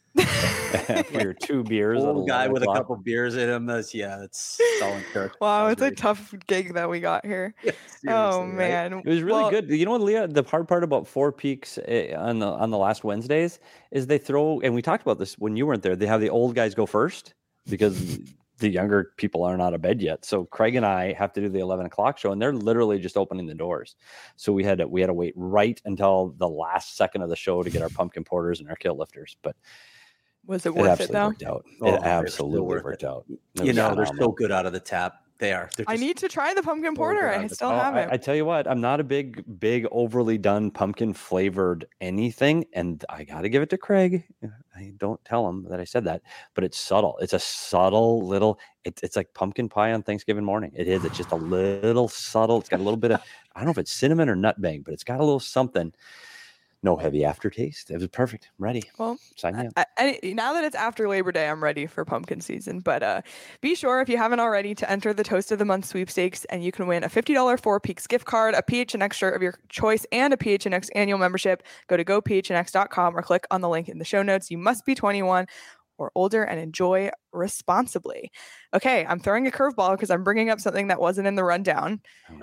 For your two beers, old guy with o'clock. a couple beers in him. That's, yeah, it's solid character. Wow, it's great. A tough gig that we got here. Yeah, oh man, right? It was really well, good. You know what, Leah? The hard part about Four Peaks uh, on the on the last Wednesdays is they throw, and we talked about this when you weren't there. They have the old guys go first because the younger people aren't out of bed yet. So Craig and I have to do the eleven o'clock show, and they're literally just opening the doors. So we had to we had to wait right until the last second of the show to get our pumpkin porters and our kill lifters, but. Was it worth it, though? Worked out. Oh, it absolutely worked it. out. It you know, phenomenal. They're so good out of the tap. They are. I need to try the pumpkin porter. I still oh, haven't. I, I tell you what, I'm not a big, big, overly done pumpkin flavored anything. And I got to give it to Craig. I don't tell him that I said that, but it's subtle. It's a subtle little, it's, it's like pumpkin pie on Thanksgiving morning. It is. It's just a little subtle. It's got a little bit of, I don't know if it's cinnamon or nutmeg, but it's got a little something. No heavy aftertaste. It was perfect. I'm ready. Well, sign me up. I, I, now that it's after Labor Day, I'm ready for pumpkin season. But uh, be sure, if you haven't already, to enter the Toast of the Month sweepstakes, and you can win a fifty dollars Four Peaks gift card, a P H N X shirt of your choice, and a P H N X annual membership. Go to go P H N X dot com or click on the link in the show notes. You must be twenty-one or older and enjoy responsibly. Okay, I'm throwing a curveball because I'm bringing up something that wasn't in the rundown.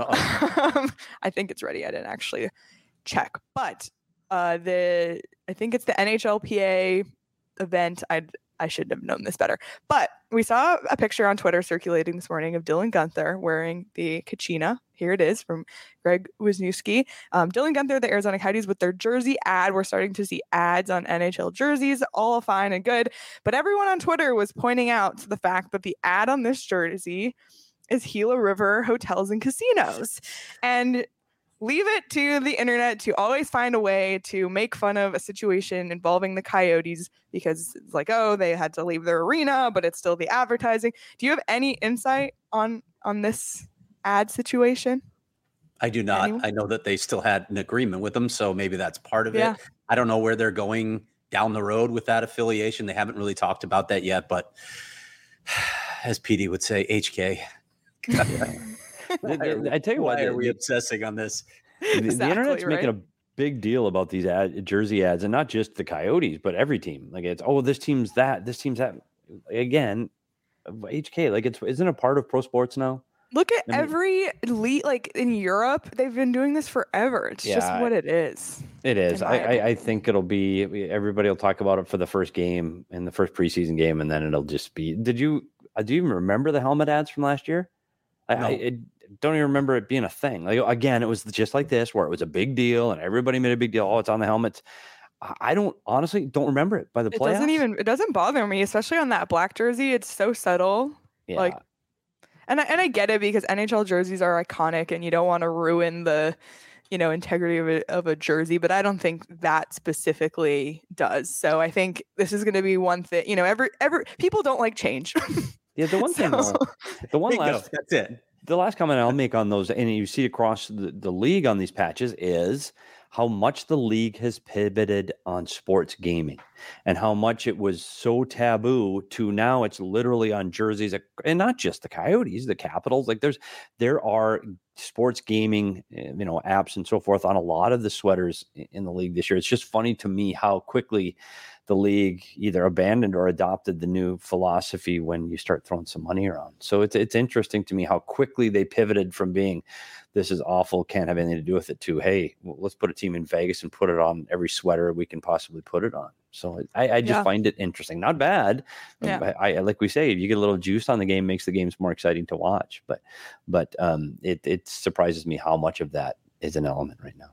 um, I think it's ready. I didn't actually check, but. Uh, the I think it's the N H L P A event. I I should have known this better, but we saw a picture on Twitter circulating this morning of Dylan Guenther wearing the Kachina. Here it is from Greg Wisniewski. Um, Dylan Guenther, the Arizona Coyotes, with their jersey ad. We're starting to see ads on N H L jerseys, all fine and good. But everyone on Twitter was pointing out the fact that the ad on this jersey is Gila River Hotels and Casinos, and leave it to the internet to always find a way to make fun of a situation involving the Coyotes because it's like, oh, they had to leave their arena, but it's still the advertising. Do you have any insight on on this ad situation? I do not. Anyone? I know that they still had an agreement with them, so maybe that's part of yeah. it. I don't know where they're going down the road with that affiliation. They haven't really talked about that yet, but as P D would say, H K. I, I tell you why what, are we the, obsessing on this? The, exactly, the internet's right? making a big deal about these ad, jersey ads, and not just the Coyotes, but every team. Like it's, oh, this team's that, this team's that. Again, H K, like it's isn't a part of pro sports now. Look at I mean, every elite, like in Europe, they've been doing this forever. It's Yeah, just what it is. It is. in I, my I, opinion. I think it'll be, everybody will talk about it for the first game and the first preseason game, and then it'll just be, did you, uh, do you even remember the helmet ads from last year? I, No. I, I don't even remember it being a thing. Like, again, it was just like this, where it was a big deal and everybody made a big deal. Oh, it's on the helmets. I I don't, honestly, don't remember it by the It playoffs. doesn't even, it doesn't bother me, especially on that black jersey. It's so subtle. yeah. like, And I, and I get it because N H L jerseys are iconic and you don't want to ruin the, you know, integrity of a, of a jersey, but I don't think that specifically does. So I think this is going to be one thing, you know, every, every people don't like change. yeah, the one thing, So- though, the one Bingo, last, that's it. the last comment I'll make on those, and you see across the, the league on these patches, is how much the league has pivoted on sports gaming and how much it was so taboo to now it's literally on jerseys, and not just the Coyotes, the Capitals. Like there's, there are sports gaming, you know, apps and so forth on a lot of the sweaters in the league this year. It's just funny to me how quickly the league either abandoned or adopted the new philosophy when you start throwing some money around. So it's it's interesting to me how quickly they pivoted from being, this is awful, can't have anything to do with it, to, hey, well, let's put a team in Vegas and put it on every sweater we can possibly put it on. So I, I just Yeah. find it interesting. Not bad. Yeah. I, I like we say, if you get a little juice on the game, makes the games more exciting to watch. But but um, it it surprises me how much of that is an element right now.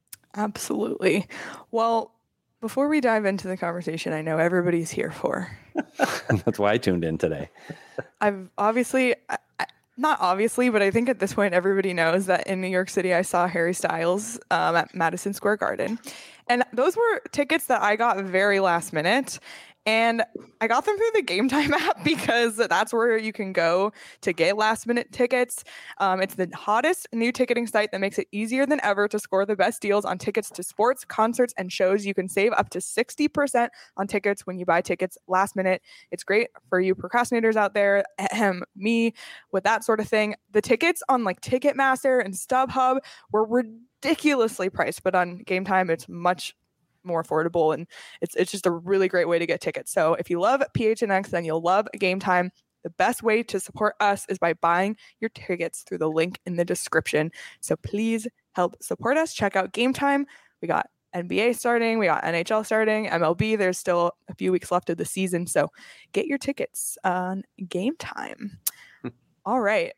Absolutely. Well, before we dive into the conversation, I know everybody's here for. That's why I tuned in today. I've obviously, I, I- not obviously, but I think at this point everybody knows that in New York City I saw Harry Styles um, at Madison Square Garden, and those were tickets that I got very last minute. And I got them through the Game Time app because that's where you can go to get last minute tickets. Um, it's the hottest new ticketing site that makes it easier than ever to score the best deals on tickets to sports, concerts, and shows. You can save up to sixty percent on tickets when you buy tickets last minute. It's great for you procrastinators out there, ahem, me, with that sort of thing. The tickets on like Ticketmaster and StubHub were ridiculously priced, but on Game Time, it's much more affordable, and it's it's just a really great way to get tickets. So if you love P H N X, then you'll love Game Time. The best way to support us is by buying your tickets through the link in the description. So please help support us. Check out Game Time. We got N B A starting, we got N H L starting, M L B. There's still a few weeks left of the season, so get your tickets on Game Time. All right.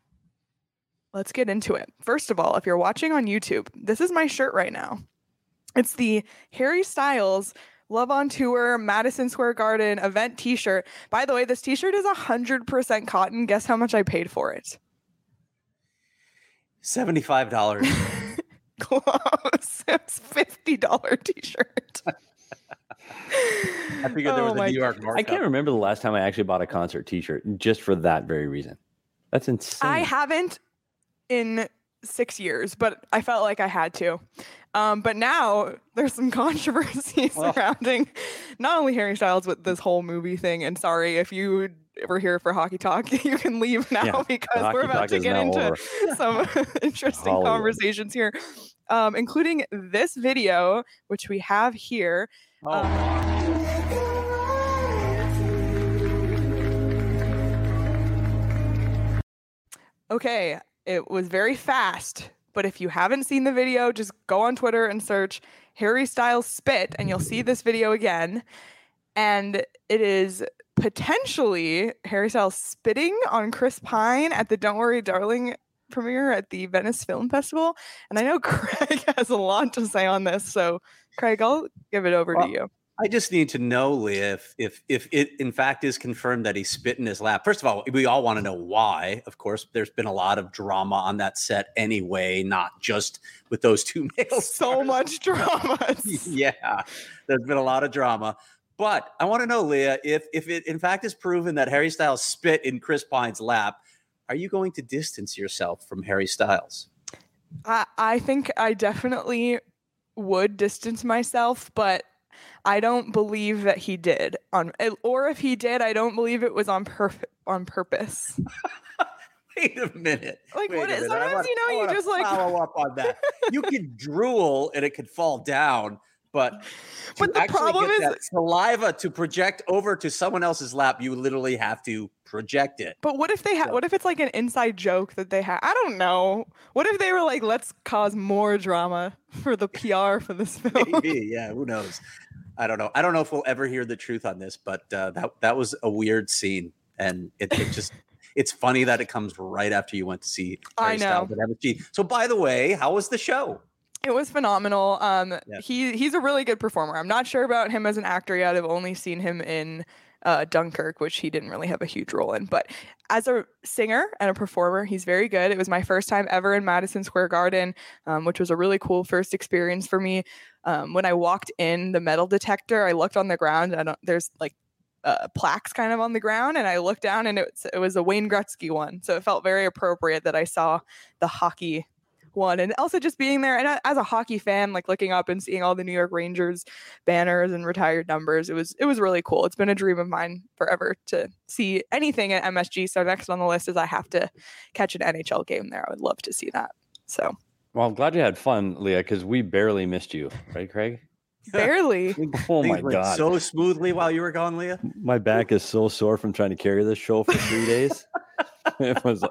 Let's get into it. First of all, if you're watching on YouTube, this is my shirt right now. It's the Harry Styles Love on Tour Madison Square Garden event t-shirt. By the way, this t-shirt is one hundred percent cotton. Guess how much I paid for it? seventy-five dollars. Close. It's fifty dollars t-shirt. I figured there was Oh a my New York I markup. can't remember the last time I actually bought a concert T-shirt just for that very reason. That's insane. I haven't in six years, but I felt like I had to. Um, but now there's some controversy Well. surrounding not only Harry Styles, but this whole movie thing. And sorry, if you were here for Hockey Talk, you can leave now Yeah, because Hockey we're about Talk to is get now into over. some interesting Hollywood. conversations here, um, including this video, which we have here. Oh, Um, God. Okay, it was very fast, but if you haven't seen the video, just go on Twitter and search Harry Styles spit and you'll see this video again. And it is potentially Harry Styles spitting on Chris Pine at the Don't Worry Darling premiere at the Venice Film Festival. And I know Craig has a lot to say on this, so Craig, I'll give it over Well, to you. I just need to know, Leah, if if if it in fact is confirmed that he spit in his lap. First of all, we all want to know why. Of course, there's been a lot of drama on that set anyway, not just with those two male So stars. much drama. Yeah, there's been a lot of drama. But I want to know, Leah, if if it in fact is proven that Harry Styles spit in Chris Pine's lap, are you going to distance yourself from Harry Styles? I, I think I definitely would distance myself, but I don't believe that he did on, or if he did, I don't believe it was on perf- on purpose. Wait a minute. Like Wait what a is minute. I sometimes wanna, you know I you wanna just like follow up on that. You can drool and it could fall down, but but the problem get is that saliva to project over to someone else's lap, you literally have to project it. But what if they had? So- What if it's like an inside joke that they had? I don't know. What if they were like, let's cause more drama for the P R for this film? Maybe, yeah. Who knows? I don't know. I don't know if we'll ever hear the truth on this, but uh, that that was a weird scene, and it, it just. It's funny that it comes right after you went to see Harry I know. Styles at M S G. So, by the way, how was the show? It was phenomenal. Um, Yeah. he he's a really good performer. I'm not sure about him as an actor yet. I've only seen him in uh, Dunkirk, which he didn't really have a huge role in. But as a singer and a performer, he's very good. It was my first time ever in Madison Square Garden, um, which was a really cool first experience for me. Um, when I walked in the metal detector, I looked on the ground and there's like Uh, plaques kind of on the ground, and I looked down and it was, it was a Wayne Gretzky one, so it felt very appropriate that I saw the hockey one. And also just being there, and as a hockey fan, like looking up and seeing all the New York Rangers banners and retired numbers, it was it was really cool. It's been a dream of mine forever to see anything at M S G. So next on the list is I have to catch an N H L game there. I would love to see that. So Well, I'm glad you had fun, Leah, because we barely missed you, right, Craig? barely. Oh Things my went god, so smoothly while you were gone, Leah. my back is so sore from trying to carry this show for three days. It was,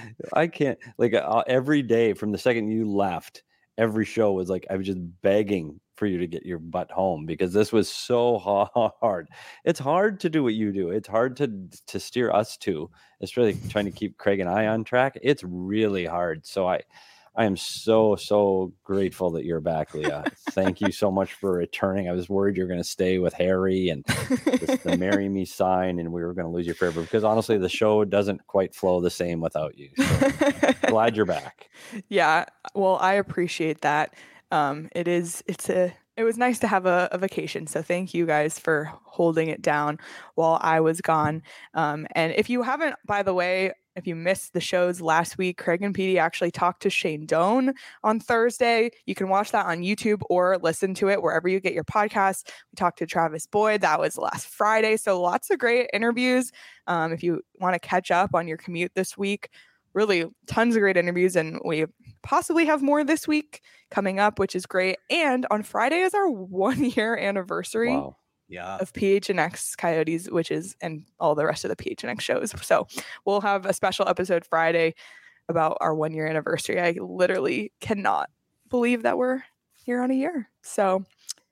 I can't like uh, every day from the second you left, every show was like I was just begging for you to get your butt home because this was so hard. It's hard to do what you do. It's hard to to steer us to. It's really trying to keep Craig and I on track. It's really hard. So I. I am so, so grateful that you're back, Leah. Thank you so much for returning. I was worried you were going to stay with Harry and with the Marry Me sign, and we were going to lose you forever because honestly, the show doesn't quite flow the same without you. So glad you're back. Yeah, well, I appreciate that. Um, it is, it's a, it was nice to have a, a vacation. So thank you guys for holding it down while I was gone. Um, and if you haven't, by the way, if you missed the shows last week, Craig and Petey actually talked to Shane Doan on Thursday. You can watch that on YouTube or listen to it wherever you get your podcasts. We talked to Travis Boyd. That was last Friday. So lots of great interviews. Um, if you want to catch up on your commute this week, really tons of great interviews. And we possibly have more this week coming up, which is great. And on Friday is our one year anniversary. Wow. Yeah. Of P H N X Coyotes, which is, and all the rest of the P H N X shows. So we'll have a special episode Friday about our one year anniversary. I literally cannot believe that we're here on a year. So,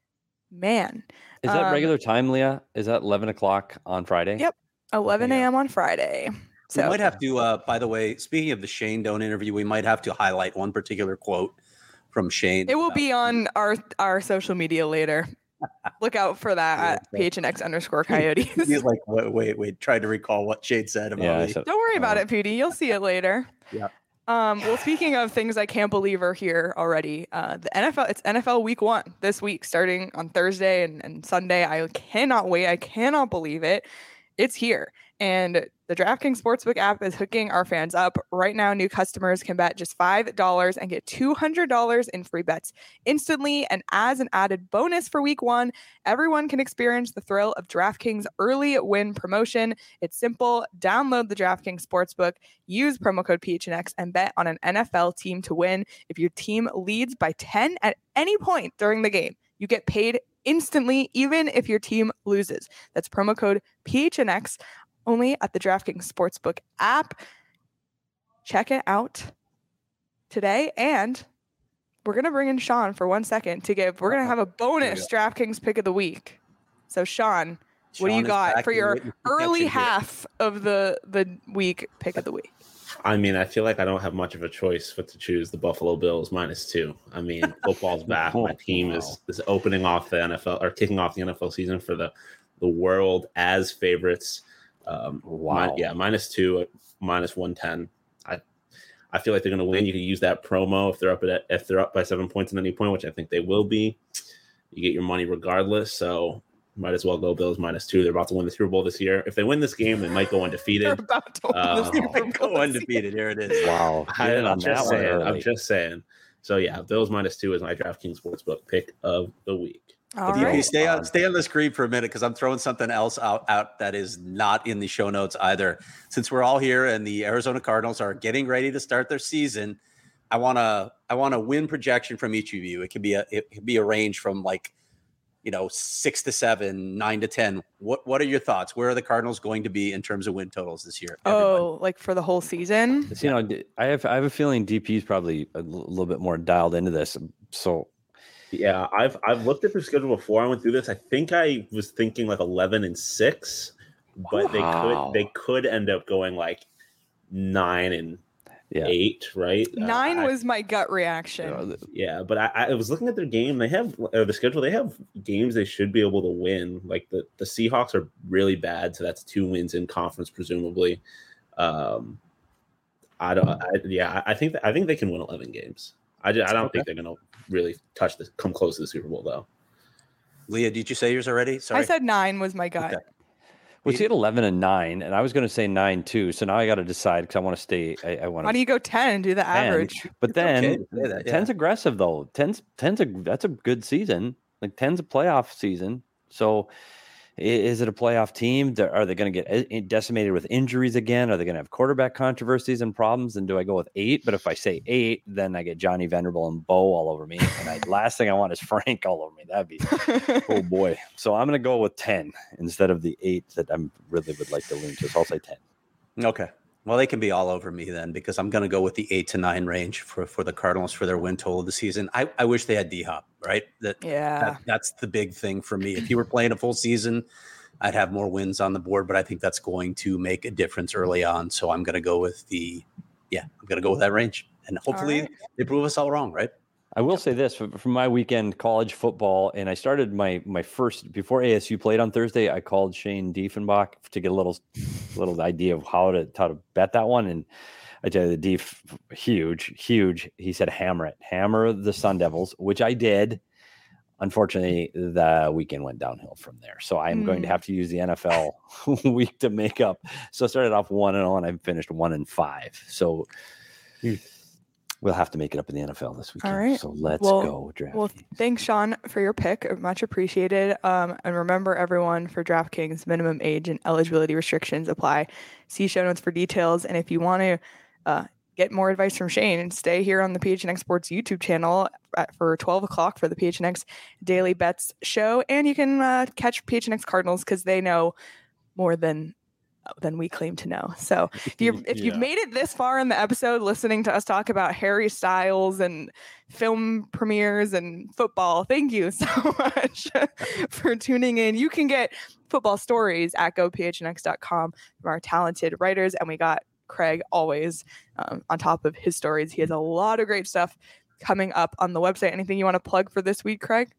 man. Is that um, regular time, Leah? Is that eleven o'clock on Friday? Yep. eleven a.m. on Friday. So We might have to, uh, by the way, speaking of the Shane Doan interview, we might have to highlight one particular quote from Shane. it will about- be on our, our social media later. Look out for that Yeah, at P H N X underscore Coyotes. He's like, wait, wait, wait, trying to recall what Shane said about Yeah. me. So, Don't worry about uh, it, Petey. You'll see it later. Yeah. Um, well, speaking of things I can't believe are here already, uh, the N F L, it's N F L week one this week, starting on Thursday and, and Sunday. I cannot wait. I cannot believe it. It's here. And the DraftKings Sportsbook app is hooking our fans up. Right now, new customers can bet just five dollars and get two hundred dollars in free bets instantly. And as an added bonus for week one, everyone can experience the thrill of DraftKings early win promotion. It's simple. Download the DraftKings Sportsbook, use promo code P H N X, and bet on an N F L team to win. If your team leads by ten at any point during the game, you get paid instantly, even if your team loses. That's promo code P H N X. Only at the DraftKings Sportsbook app. Check it out today. And we're going to bring in Sean for one second to give, we're going to have a bonus DraftKings pick of the week. So Sean, what do Sean you is got back for in your witness early protection here. half of the, the week pick of the week? I mean, I feel like I don't have much of a choice but to choose the Buffalo Bills minus two. I mean, football's back. My team is, is opening off the N F L or kicking off the N F L season for the, the world as favorites. Um, Wow. mi- yeah, minus two, minus one ten. I I feel like they're going to win. You can use that promo if they're up at if they're up by seven points at any point, which I think they will be. You get your money regardless. So might as well go Bills minus two. They're about to win the Super Bowl this year. If they win this game, they might go They're undefeated. about to win the Uh, Super Bowl Go this undefeated. Here it is. Wow. I, Get in I'm on that just one saying. I'm early. just saying. So yeah, Bills minus two is my DraftKings Sportsbook pick of the week. All D P, right. stay on stay on the screen for a minute because I'm throwing something else out, out that is not in the show notes either. Since we're all here and the Arizona Cardinals are getting ready to start their season, I want to I want a win projection from each of you. It could be a it could be a range from like, you know, six to seven, nine to ten. What what are your thoughts? Where are the Cardinals going to be in terms of win totals this year? Everybody? Oh, like for the whole season? You know, I have I have a feeling D P is probably a little bit more dialed into this. So yeah, I've I've looked at their schedule before I went through this. I think I was thinking like eleven and six, but wow. they could they could end up going like nine and yeah. eight, right? Nine uh, was my gut reaction. Uh, yeah, but I, I was looking at their game. They have uh, the schedule. They have games they should be able to win. Like the, the Seahawks are really bad, so that's two wins in conference presumably. Um, I don't. I, yeah, I think that, I think they can win eleven games. I, just, I don't Okay. think they're going to really touch this, come close to the Super Bowl though. Leah, did you say yours already? Sorry. I said nine was my gut. Okay. we see at eleven and nine, and I was going to say nine too. So now I got to decide because I want to stay. I, I want Why do to. you go ten and do the average? But then okay to say that, yeah. ten's aggressive though. Ten's ten's a that's a good season. Like ten's a playoff season. So i- is it a playoff team? Th- Are they going to get i- decimated with injuries again? Are they going to have quarterback controversies and problems? And do I go with eight? But if I say eight, then I get Johnny Vanderbilt and Bo all over me. And I, last thing I want is Frank all over me. That'd be oh boy. So I'm going to go with ten instead of the eight that I really would like to lean to. So I'll say ten. Okay. Well, they can be all over me then because I'm going to go with the eight to nine range for, for the Cardinals for their win total of the season. I, I wish they had D-Hop, right? That, Yeah. that that's the big thing for me. If you were playing a full season, I'd have more wins on the board, but I think that's going to make a difference early on. So I'm going to go with the, yeah, I'm going to go with that range. And hopefully right. they prove us all wrong, right? I will say this for, for my weekend college football, and I started my my first before A S U played on Thursday. I called Shane Diefenbach to get a little little idea of how to how to bet that one, and I tell you the Dief huge huge. He said hammer it, hammer the Sun Devils, which I did. Unfortunately, the weekend went downhill from there, so I'm mm. going to have to use the N F L week to make up. So I started off one and zero, and I finished one and five. So. We'll have to make it up in the N F L this weekend. All right. So let's well, go, DraftKings. Well, thanks, Sean, for your pick. Much appreciated. Um, and remember, everyone, for DraftKings, minimum age and eligibility restrictions apply. See show notes for details. And if you want to uh, get more advice from Shane, stay here on the P H N X Sports YouTube channel at, for twelve o'clock for the P H N X Daily Bets show. And you can uh, catch P H N X Cardinals because they know more than than we claim to know. So if you if you've Yeah. made it this far in the episode listening to us talk about Harry Styles and film premieres and football, thank you so much for tuning in. You can get football stories at go p h n x dot com from our talented writers, and we got Craig always um, on top of his stories. He has a lot of great stuff coming up on the website. Anything you want to plug for this week, Craig?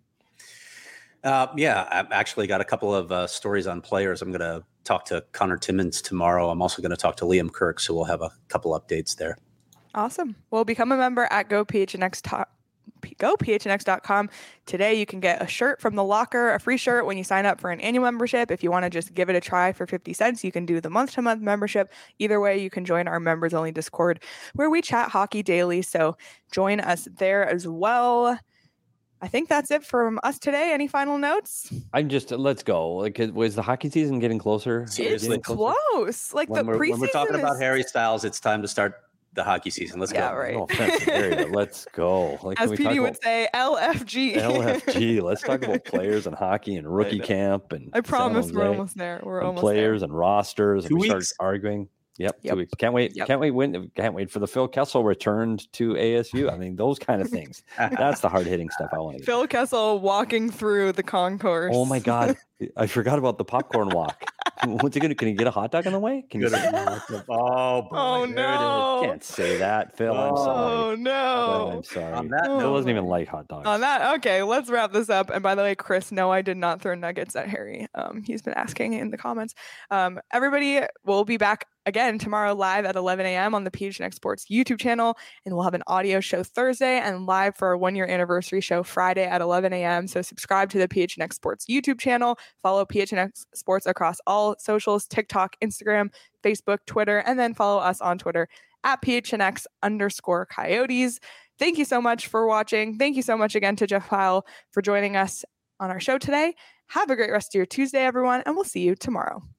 Uh, yeah, I've actually got a couple of uh, stories on players. I'm going to talk to Connor Timmons tomorrow. I'm also going to talk to Liam Kirk, so we'll have a couple updates there. Awesome. Well, become a member at go p h n x dot go p h n x dot com. Today, you can get a shirt from The Locker, a free shirt when you sign up for an annual membership. If you want to just give it a try for fifty cents, you can do the month-to-month membership. Either way, you can join our members-only Discord where we chat hockey daily, so join us there as well. I think that's it from us today. Any final notes? I'm just let's go. Like, was the hockey season getting closer? Seriously. It's close. Like When the we're, preseason when we're talking is... about Harry Styles, it's time to start the hockey season. Let's Yeah, go. right. No offense to Harry, but let's go. Like, As can we P talk D would about say, L F G. L F G? Let's talk about players and hockey and rookie know. camp and I promise San we're Jose almost there. We're and almost players and rosters. Two and we weeks. start arguing. Yep, Yep. two weeks. Can't wait. Yep. Can't wait. Win. Can't wait for the Phil Kessel returned to A S U. I mean, those kind of things. That's the hard hitting stuff I want to. there. Phil Kessel walking through the concourse. Oh my God, I forgot about the popcorn walk. What's he gonna? Can he get a hot dog on the way? Can you? Good. oh, boy, Oh, there it is. no. Can't say that, Phil. I'm Oh sorry. Phil, no. I'm sorry. On that Oh. Phil note, doesn't even like hot dogs. On that, okay, let's wrap this up. And by the way, Chris, no, I did not throw nuggets at Harry. Um, he's been asking in the comments. Um, everybody will be back again tomorrow live at eleven a.m. on the P H N X Sports YouTube channel, and we'll have an audio show Thursday and live for our one-year anniversary show Friday at eleven a.m. So subscribe to the P H N X Sports YouTube channel, follow P H N X Sports across all socials, TikTok, Instagram, Facebook, Twitter, and then follow us on Twitter at P H N X underscore Coyotes. Thank you so much for watching. Thank you so much again to Jeff Pyle for joining us on our show today. Have a great rest of your Tuesday, everyone, and we'll see you tomorrow.